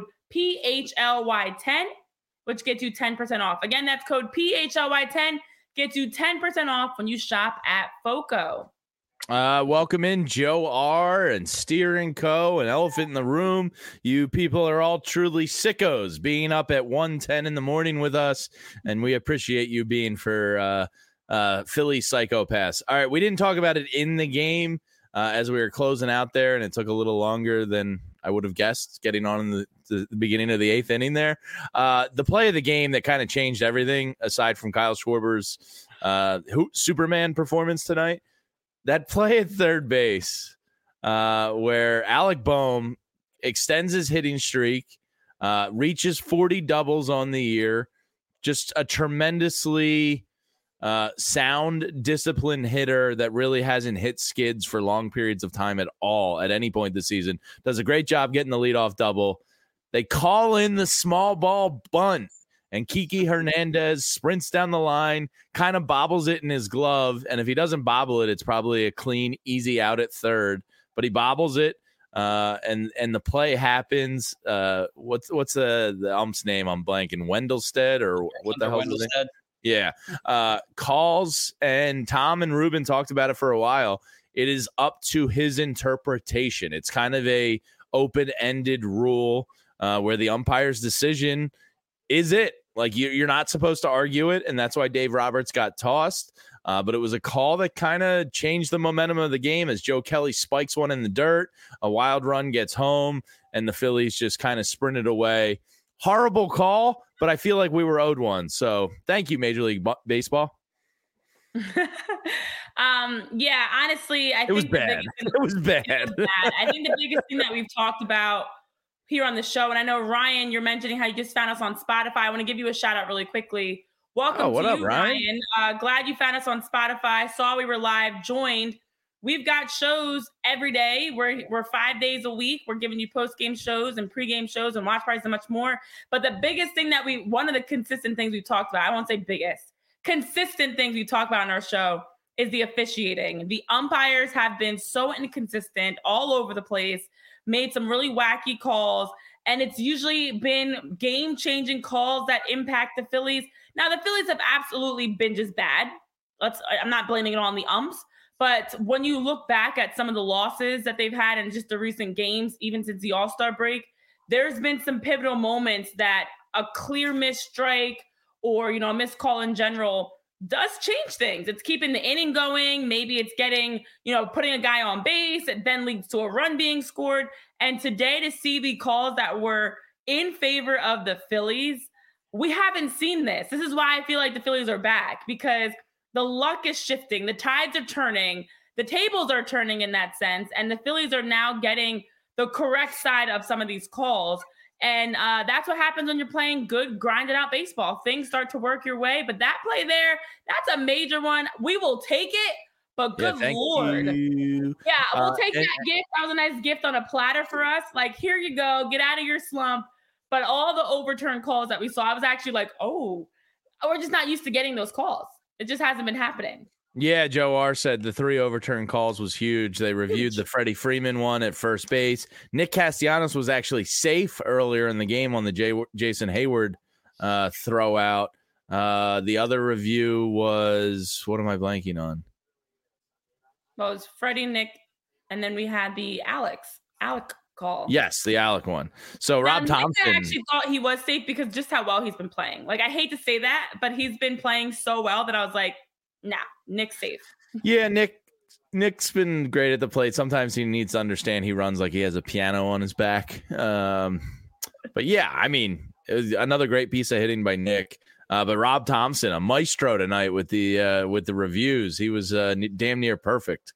PHLY10, which gets you 10% off. Again, that's code PHLY10, gets you 10% off when you shop at FOCO. Welcome in Joe R. and Steer & Co. and Elephant in the Room. You people are all truly sickos being up at 1:10 in the morning with us, and we appreciate you being for Philly psychopaths. All right, we didn't talk about it in the game as we were closing out there, and it took a little longer than I would have guessed getting on in the beginning of the 8th inning there. The play of the game that kind of changed everything, aside from Kyle Schwarber's Superman performance tonight, that play at third base where Alec Boehm extends his hitting streak, reaches 40 doubles on the year, just a tremendously sound, disciplined hitter that really hasn't hit skids for long periods of time at all at any point this season. Does a great job getting the leadoff double. They call in the small ball bunt, and Kiki Hernandez sprints down the line, kind of bobbles it in his glove, and if he doesn't bobble it, it's probably a clean, easy out at third. But he bobbles it, and the play happens. What's the ump's name? I'm blanking. Wendelstead or what the hell is his name? Yeah. Calls, and Tom and Ruben talked about it for a while. It is up to his interpretation. It's kind of a open-ended rule where the umpire's decision is it. Like, you're not supposed to argue it, and that's why Dave Roberts got tossed. But it was a call that kind of changed the momentum of the game as Joe Kelly spikes one in the dirt. A wild run gets home, and the Phillies just kind of sprinted away. Horrible call, but I feel like we were owed one. So thank you, Major League Baseball. Yeah, honestly, I think it was bad. It was bad. I think the biggest thing that we've talked about here on the show, and I know, Ryan, you're mentioning how you just found us on Spotify. I want to give you a shout out really quickly. Welcome to you, Ryan. Glad you found us on Spotify. Saw we were live, joined. We've got shows every day. We're 5 days a week. We're giving you post-game shows and pre-game shows and watch parties and much more. But the biggest thing that one of the consistent things we talked about, I won't say biggest, consistent things we talk about on our show is the officiating. The umpires have been so inconsistent all over the place, made some really wacky calls, and it's usually been game-changing calls that impact the Phillies. Now, the Phillies have absolutely been just bad. I'm not blaming it on the umps. But when you look back at some of the losses that they've had in just the recent games, even since the All-Star break, there's been some pivotal moments that a clear missed strike or, a missed call in general does change things. It's keeping the inning going. Maybe it's getting, putting a guy on base. It then leads to a run being scored. And today, to see the calls that were in favor of the Phillies, we haven't seen this. This is why I feel like the Phillies are back, because the luck is shifting. The tides are turning. The tables are turning in that sense. And the Phillies are now getting the correct side of some of these calls. And that's what happens when you're playing good, grinded out baseball. Things start to work your way. But that play there, that's a major one. We will take it. But good Lord. You. Yeah, we'll take that gift. That was a nice gift on a platter for us. Like, here you go. Get out of your slump. But all the overturned calls that we saw, I was actually like, oh, we're just not used to getting those calls. It just hasn't been happening. Yeah, Joe R. said the 3 overturned calls was huge. They reviewed the Freddie Freeman one at first base. Nick Castellanos was actually safe earlier in the game on the Jason Hayward throw out. The other review was, what am I blanking on? Well, it was Freddie, Nick, and then we had the Alec call. Yes, the Alec one. So now, Rob Thompson. I actually thought he was safe because just how well he's been playing. Like, I hate to say that, but he's been playing so well that I was like, nah, Nick's safe. Yeah, Nick's been great at the plate. Sometimes he needs to understand he runs like he has a piano on his back. But yeah, I mean, it was another great piece of hitting by Nick. But Rob Thompson, a maestro tonight with the reviews. He was damn near perfect.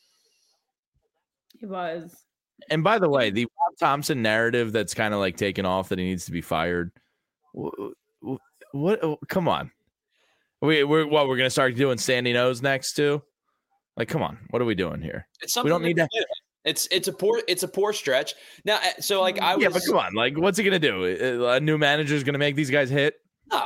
He was. And by the way, the Rob Thompson narrative that's kind of like taken off that he needs to be fired. What? Come on. We're going to start doing standing O's next too? Like, come on. What are we doing here? We don't need that. It's a poor stretch. Now, so like yeah, but come on. Like, what's he going to do? A new manager is going to make these guys hit? No.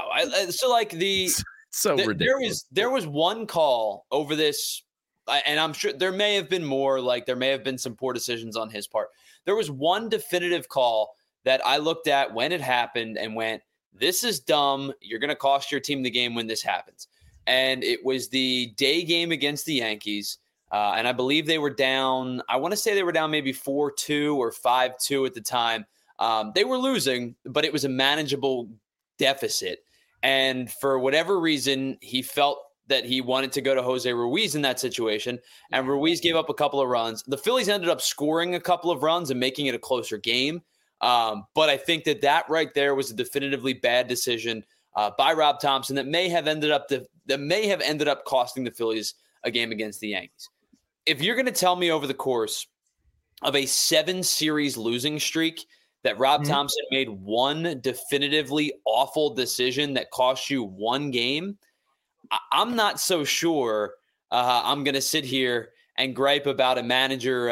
Ridiculous. There was one call over this. And I'm sure there may have been more, like there may have been some poor decisions on his part. There was one definitive call that I looked at when it happened and went, this is dumb. You're going to cost your team the game when this happens. And it was the day game against the Yankees. And I believe they were down, I want to say they were down maybe 4-2 or 5-2 at the time. They were losing, but it was a manageable deficit. And for whatever reason, he felt that he wanted to go to Jose Ruiz in that situation, and Ruiz gave up a couple of runs. The Phillies ended up scoring a couple of runs and making it a closer game. But I think that right there was a definitively bad decision by Rob Thompson that may have ended up costing the Phillies a game against the Yankees. If you're going to tell me over the course of a 7-series losing streak that Rob Thompson made one definitively awful decision that cost you one game, I'm not so sure I'm going to sit here and gripe about a manager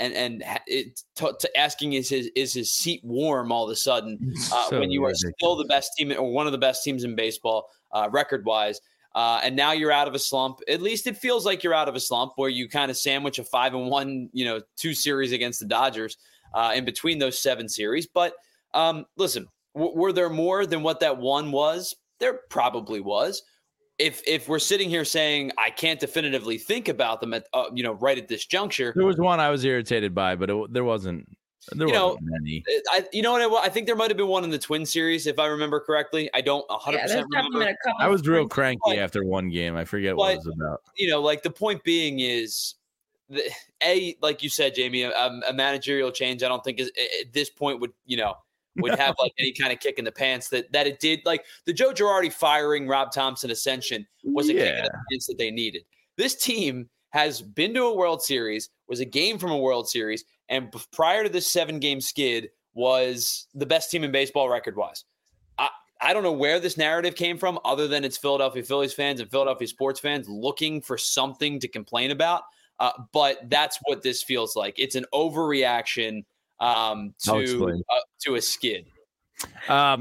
asking is his seat warm all of a sudden when you are still the best team or one of the best teams in baseball record-wise. And now you're out of a slump. At least it feels like you're out of a slump where you kind of sandwich a 5-1, 2 series against the Dodgers in between those 7 series. But listen, were there more than what that one was? There probably was. If we're sitting here saying I can't definitively think about them at right at this juncture, there was one I was irritated by, but there wasn't. Wasn't many. I think there might have been one in the Twin series, if I remember correctly. I don't 100% remember. I was real cranky after one game. I forget what it was about. Like the point being is, like you said, Jamie, a managerial change. I don't think is at this point would have like any kind of kick in the pants that it did. Like the Joe Girardi firing Rob Thompson ascension was a kick in the pants that they needed. This team has been to a World Series, was a game from a World Series, and prior to this 7-game skid was the best team in baseball record-wise. I don't know where this narrative came from other than it's Philadelphia Phillies fans and Philadelphia sports fans looking for something to complain about. But that's what this feels like. It's an overreaction to a skid. I'll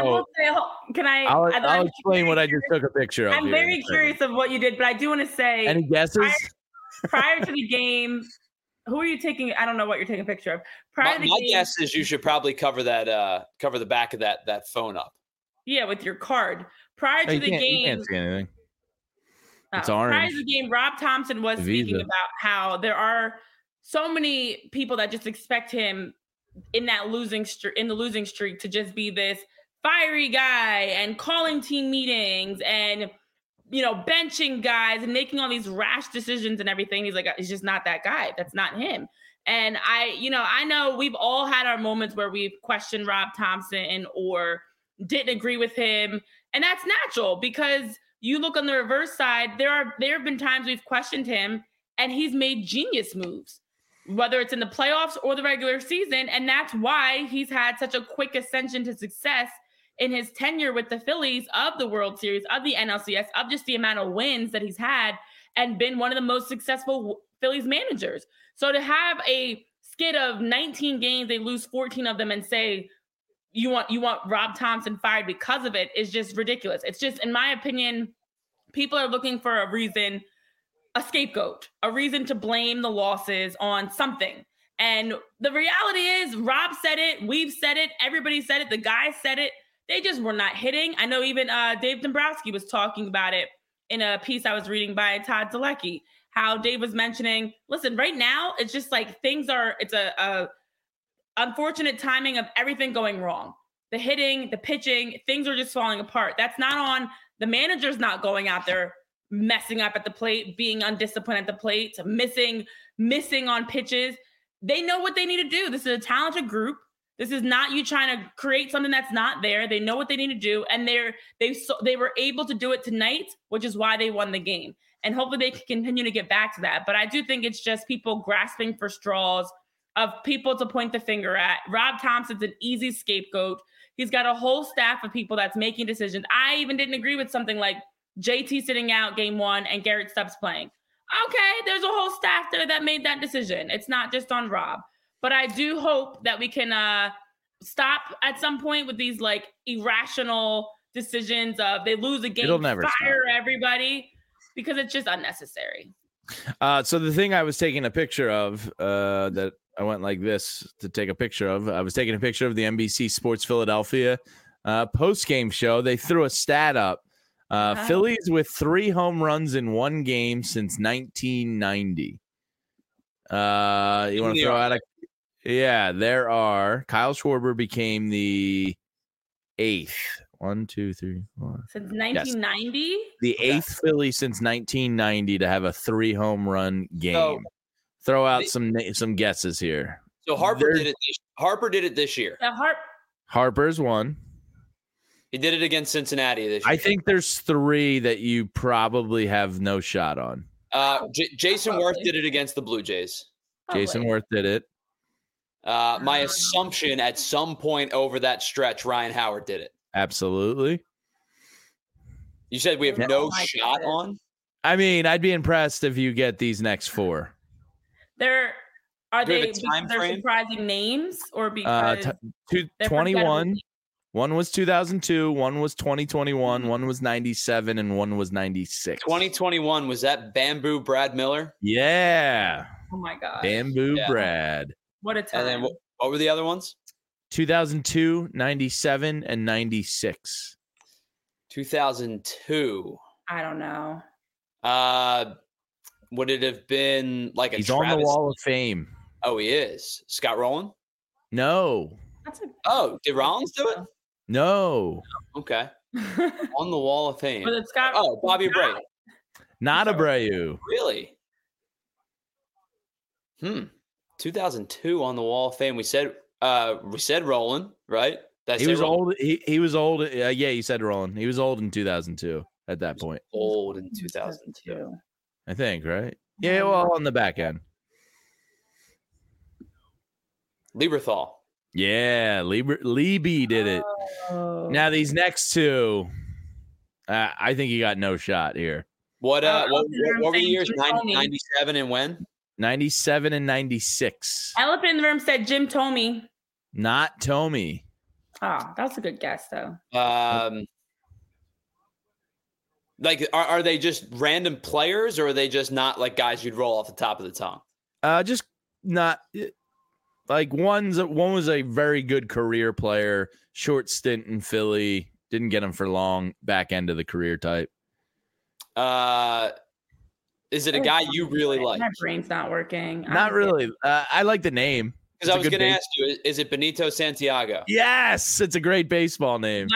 explain what I just took a picture of. I'm very curious of what you did, but I do want to say, any guesses? Prior to the game, who are you taking? I don't know what you're taking a picture of. My guess is you should probably cover the back of that phone up. Yeah, with your card. Prior to the game, you can't see anything. It's orange. Prior to the game, Rob Thompson was speaking about how there are so many people that just expect him in the losing streak to just be this fiery guy and calling team meetings and benching guys and making all these rash decisions and everything. He's like, he's just not that guy. That's not him. And I know we've all had our moments where we've questioned Rob Thompson or didn't agree with him. And that's natural because you look on the reverse side, there have been times we've questioned him and he's made genius moves, whether it's in the playoffs or the regular season. And that's why he's had such a quick ascension to success in his tenure with the Phillies, of the World Series, of the NLCS, of just the amount of wins that he's had and been one of the most successful Phillies managers. So to have a skid of 19 games, they lose 14 of them and say, you want Rob Thompson fired because of it is just ridiculous. It's just, in my opinion, people are looking for a reason, a scapegoat, a reason to blame the losses on something. And the reality is Rob said it, we've said it, everybody said it, the guys said it. They just were not hitting. I know even Dave Dombrowski was talking about it in a piece I was reading by Todd Zalecki, how Dave was mentioning, listen, right now, it's just like it's a unfortunate timing of everything going wrong. The hitting, the pitching, things are just falling apart. That's not on the manager's not going out there messing up at the plate, being undisciplined at the plate, missing on pitches. They know what they need to do. This is a talented group. This is not you trying to create something that's not there. They know what they need to do, and they were able to do it tonight, which is why they won the game. And hopefully they can continue to get back to that. But I do think it's just people grasping for straws of people to point the finger at. Rob Thompson's an easy scapegoat. He's got a whole staff of people that's making decisions. I even didn't agree with something like JT sitting out game 1 and Garrett Stubbs playing. Okay, there's a whole staff there that made that decision. It's not just on Rob. But I do hope that we can stop at some point with these like irrational decisions of they lose a game, fire everybody, because it's just unnecessary. So the thing I was taking a picture of that I went like this to take a picture of, I was taking a picture of the NBC Sports Philadelphia post-game show. They threw a stat up. Phillies with 3 home runs in one game since 1990. You want to throw out a... Yeah, there are. Kyle Schwarber became the 8th. 1, 2, 3, 4. Since 1990? Yes. The 8th Philly since 1990 to have a 3 home run game. So, throw out some guesses here. So Harper did it this year. Harper's one. He did it against Cincinnati this year. I think there's 3 that you probably have no shot on. Jason Worth did it against the Blue Jays. Jason Worth did it. My assumption at some point over that stretch, Ryan Howard did it. Absolutely. You said we have no shot on? I mean, I'd be impressed if you get these next 4. Are they surprising names or because 21? One was 2002, one was 2021, one was 97, and one was 96. 2021, was that Bamboo Brad Miller? Yeah. Oh my God. Bamboo Brad. What a time. And then what were the other ones? 2002, 97, and 96. 2002. I don't know. Would it have been like a He's Travis? on the Wall of Fame. Oh, he is. Scott Rowland? No. Did Rollins do it? No. Okay. On the Wall of Fame. Was it Scott? Oh, Bobby Abreu. Not Abreu. Really? 2002 on the Wall of Fame. We said Rowland, right? He was old. He was old. Yeah, you said Rowland. He was old in 2002 at that point. Old in 2002. I think, right? Yeah, well, on the back end. Lieberthal. Yeah, Lieby did it. Oh. Now these next 2, I think you got no shot here. What were the years? 97 and when? 97 and 96. Elephant in the room said Jim Thome. Not Thome. Oh, that's a good guess, though. Like, are they just random players, or are they just not like guys you'd roll off the top of the tongue? Just not like one was a very good career player, short stint in Philly, didn't get him for long, back end of the career type. Is it a guy you really like? My brain's not working. Not really. I like the name. Because I was going to ask you, is it Benito Santiago? Yes, it's a great baseball name.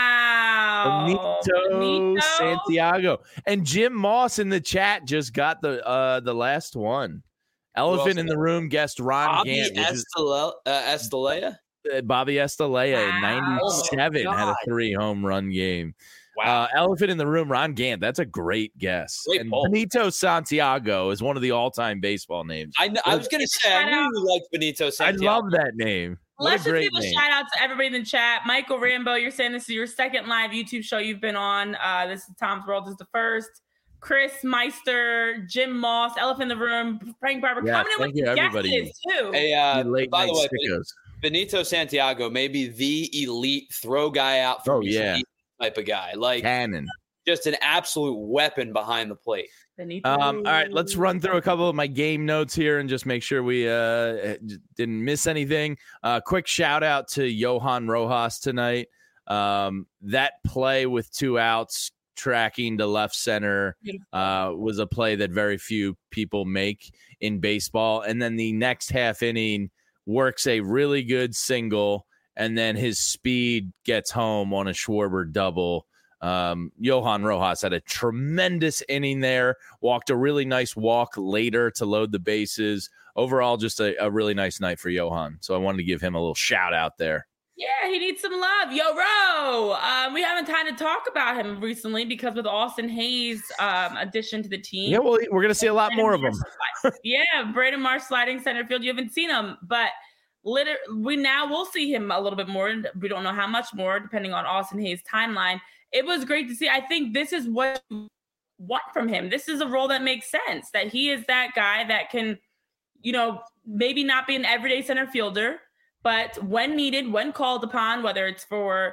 Wow. Benito Santiago. And Jim Moss in the chat just got the last one. Elephant in the room guessed Ron Gant. Estalella? Bobby Estalella in 97 had a 3 home run game. Wow. Elephant in the room, Ron Gant. That's a great guess. Great poll. Benito Santiago is one of the all-time baseball names. I was going to say, I knew you liked Benito Santiago. I love that name. Let's just give a shout out to everybody in the chat. Michael Rambo, you're saying this is your second live YouTube show you've been on. This is Tom's World is the first. Chris Meister, Jim Moss, Elephant in the Room, Frank Barber, coming in with everybody too. Hey, by the way, Benito Santiago may be the elite throw guy out for type of guy, like cannon, just an absolute weapon behind the plate. All right, let's run through a couple of my game notes here and just make sure we didn't miss anything. Quick shout out to Johan Rojas tonight. That play with 2 outs, tracking to left center, was a play that very few people make in baseball. And then the next half inning works a really good single, and then his speed gets home on a Schwarber double. Johan Rojas had a tremendous inning there, walked a really nice walk later to load the bases. Overall, just a really nice night for Johan. So I wanted to give him a little shout out there. Yeah, he needs some love. Yo, Ro. We haven't had to talk about him recently because with Austin Hayes' addition to the team. Yeah, well, we're going to see a lot more of him. Yeah, Braden Marsh sliding center field. You haven't seen him, but we'll see him a little bit more. We don't know how much more, depending on Austin Hayes' timeline. It was great to see. I think this is what you want from him. This is a role that makes sense, that he is that guy that can, maybe not be an everyday center fielder, but when needed, when called upon, whether it's for,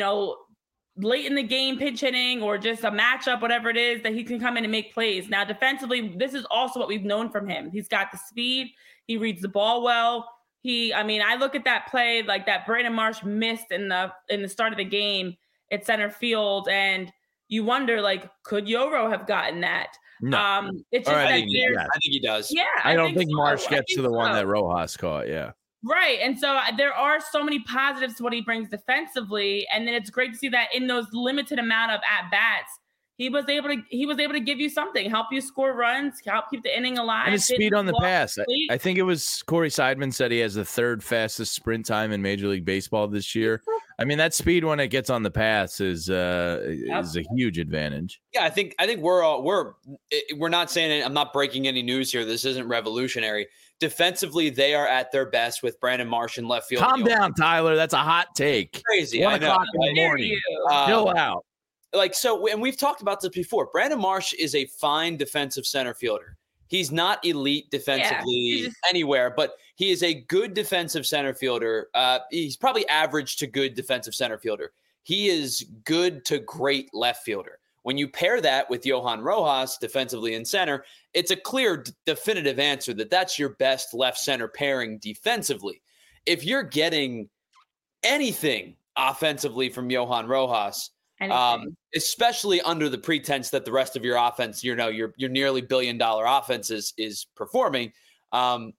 late in the game pitch hitting or just a matchup, whatever it is, that he can come in and make plays. Now, defensively, this is also what we've known from him. He's got the speed. He reads the ball well. I look at that play, like that Braden Marsh missed in the start of the game at center field, and you wonder, like, could Yoro have gotten that? No. It's just I think he does. Yeah. I don't think Marsh gets to the one that Rojas caught. Yeah. Right. And so there are so many positives to what he brings defensively. And then it's great to see that in those limited amount of at-bats, he was able to give you something, help you score runs, help keep the inning alive. And his speed on the pass. I think it was Corey Seidman said he has the 3rd fastest sprint time in Major League Baseball this year. I mean, that speed when it gets on the pass is a huge advantage. Yeah, I think we're not saying it. I'm not breaking any news here. This isn't revolutionary. Defensively, they are at their best with Brandon Marsh in left field. Calm down, Tyler. That's a hot take. Crazy. 1 o'clock in the morning. Chill out. and we've talked about this before. Brandon Marsh is a fine defensive center fielder. He's not elite defensively anywhere, but he is a good defensive center fielder. He's probably average to good defensive center fielder. He is good to great left fielder. When you pair that with Johan Rojas defensively in center, it's a clear, definitive answer that that's your best left center pairing defensively. If you're getting anything offensively from Johan Rojas, especially under the pretense that the rest of your offense, your nearly $1 billion offense is performing, I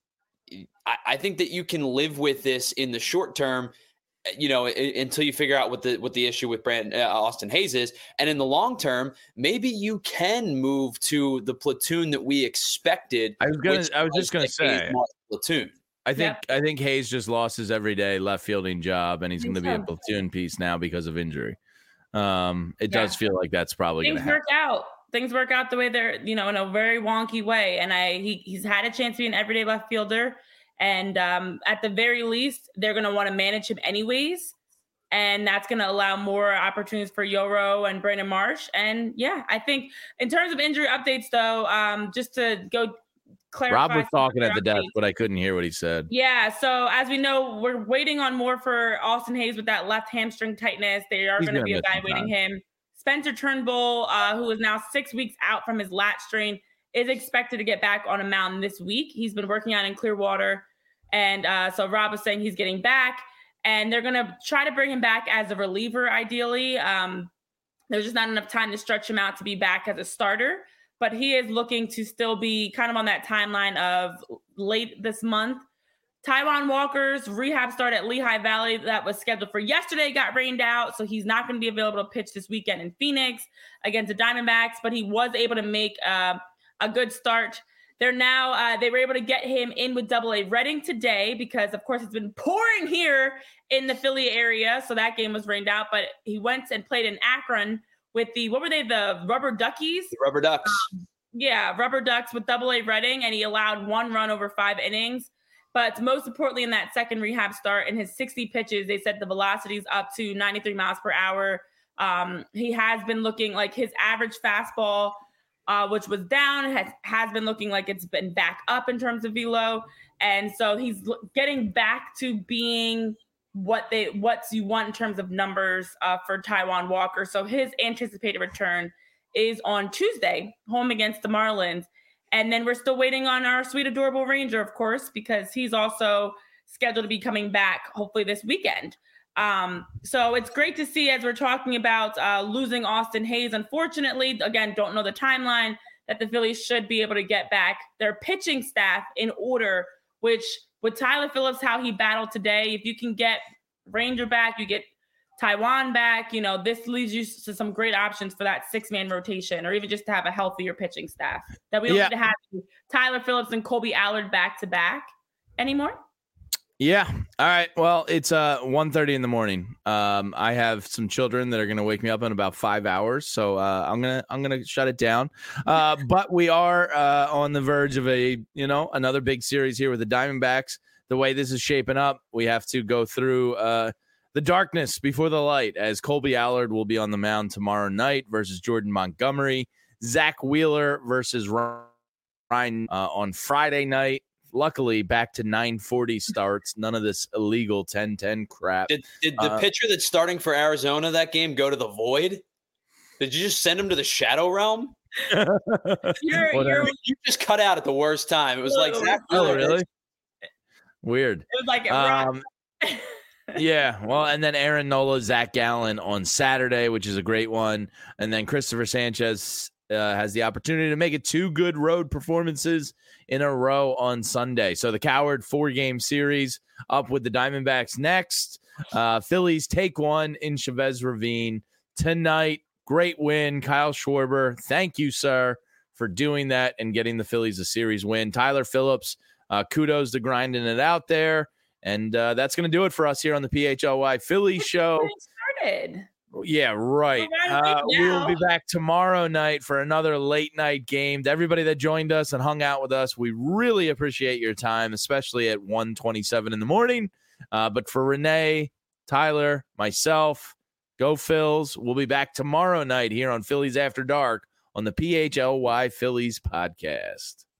think that you can live with this in the short term, until you figure out what the issue with Austin Hayes is. And in the long term, maybe you can move to the platoon that we expected. I was just going to say platoon. I think Hayes just lost his everyday left fielding job, and he's going to be a platoon piece now because of injury. It does feel like that's probably going to happen. Things work out the way they're, in a very wonky way. And he's had a chance to be an everyday left fielder. And at the very least, they're going to want to manage him anyways. And that's going to allow more opportunities for Yoro and Brandon Marsh. And I think in terms of injury updates, though, just to go clarify. Rob was talking at the desk, but I couldn't hear what he said. Yeah. So as we know, we're waiting on more for Austin Hayes with that left hamstring tightness. They are going to be evaluating him. Spencer Turnbull, who is now 6 weeks out from his lat strain, is expected to get back on a mound this week. He's been working out in Clearwater. And so Rob was saying he's getting back, and they're going to try to bring him back as a reliever, ideally. There's just not enough time to stretch him out to be back as a starter. But he is looking to still be kind of on that timeline of late this month. Taijuan Walker's rehab start at Lehigh Valley that was scheduled for yesterday got rained out, so he's not going to be available to pitch this weekend in Phoenix against the Diamondbacks, but he was able to make a good start. They're now they were able to get him in with Double-A Reading today because, of course, it's been pouring here in the Philly area, so that game was rained out. But he went and played in Akron with the Rubber Duckies? The Rubber Ducks. Rubber Ducks with Double-A Reading, and he allowed 1 run over 5 innings. But most importantly, in that second rehab start, in his 60 pitches, they set the velocities up to 93 miles per hour. He has been looking like his average fastball, which was down, has been looking like it's been back up in terms of velo. And so he's getting back to being what you want in terms of numbers for Taijuan Walker. So his anticipated return is on Tuesday, home against the Marlins. And then we're still waiting on our sweet, adorable Ranger, of course, because he's also scheduled to be coming back hopefully this weekend. So it's great to see, as we're talking about losing Austin Hayes. Unfortunately, again, don't know the timeline, that the Phillies should be able to get back their pitching staff in order, which with Tyler Phillips, how he battled today, if you can get Ranger back, you get Taijuan back, this leads you to some great options for that 6-man rotation, or even just to have a healthier pitching staff, that we don't need to have Tyler Phillips and Colby Allard back to back anymore. Yeah. All right. Well, it's 1:30 in the morning. I have some children that are going to wake me up in about 5 hours, so I'm gonna shut it down. But we are on the verge of another big series here with the Diamondbacks. The way this is shaping up, we have to go through the darkness before the light, as Colby Allard will be on the mound tomorrow night versus Jordan Montgomery. Zach Wheeler versus Ryan on Friday night. Luckily, back to 9:40 starts. None of this illegal 10-10 crap. Did the pitcher that's starting for Arizona that game go to the void? Did you just send him to the shadow realm? You just cut out at the worst time. It was like Zach Wheeler. Oh, really? Weird. It was like yeah, well, and then Aaron Nola, Zach Gallen on Saturday, which is a great one. And then Christopher Sanchez has the opportunity to make it 2 good road performances in a row on Sunday. So the Coward 4-game series up with the Diamondbacks next. Phillies take 1 in Chavez Ravine tonight. Great win, Kyle Schwarber. Thank you, sir, for doing that and getting the Phillies a series win. Tyler Phillips, kudos to grinding it out there. And that's going to do it for us here on the PHLY Philly Show. Started. Yeah, right. We will be back tomorrow night for another late night game. To everybody that joined us and hung out with us, we really appreciate your time, especially at 1:27 in the morning. But for Renee, Tyler, myself, Go Phils. We'll be back tomorrow night here on Phillies After Dark on the PHLY Phillies podcast.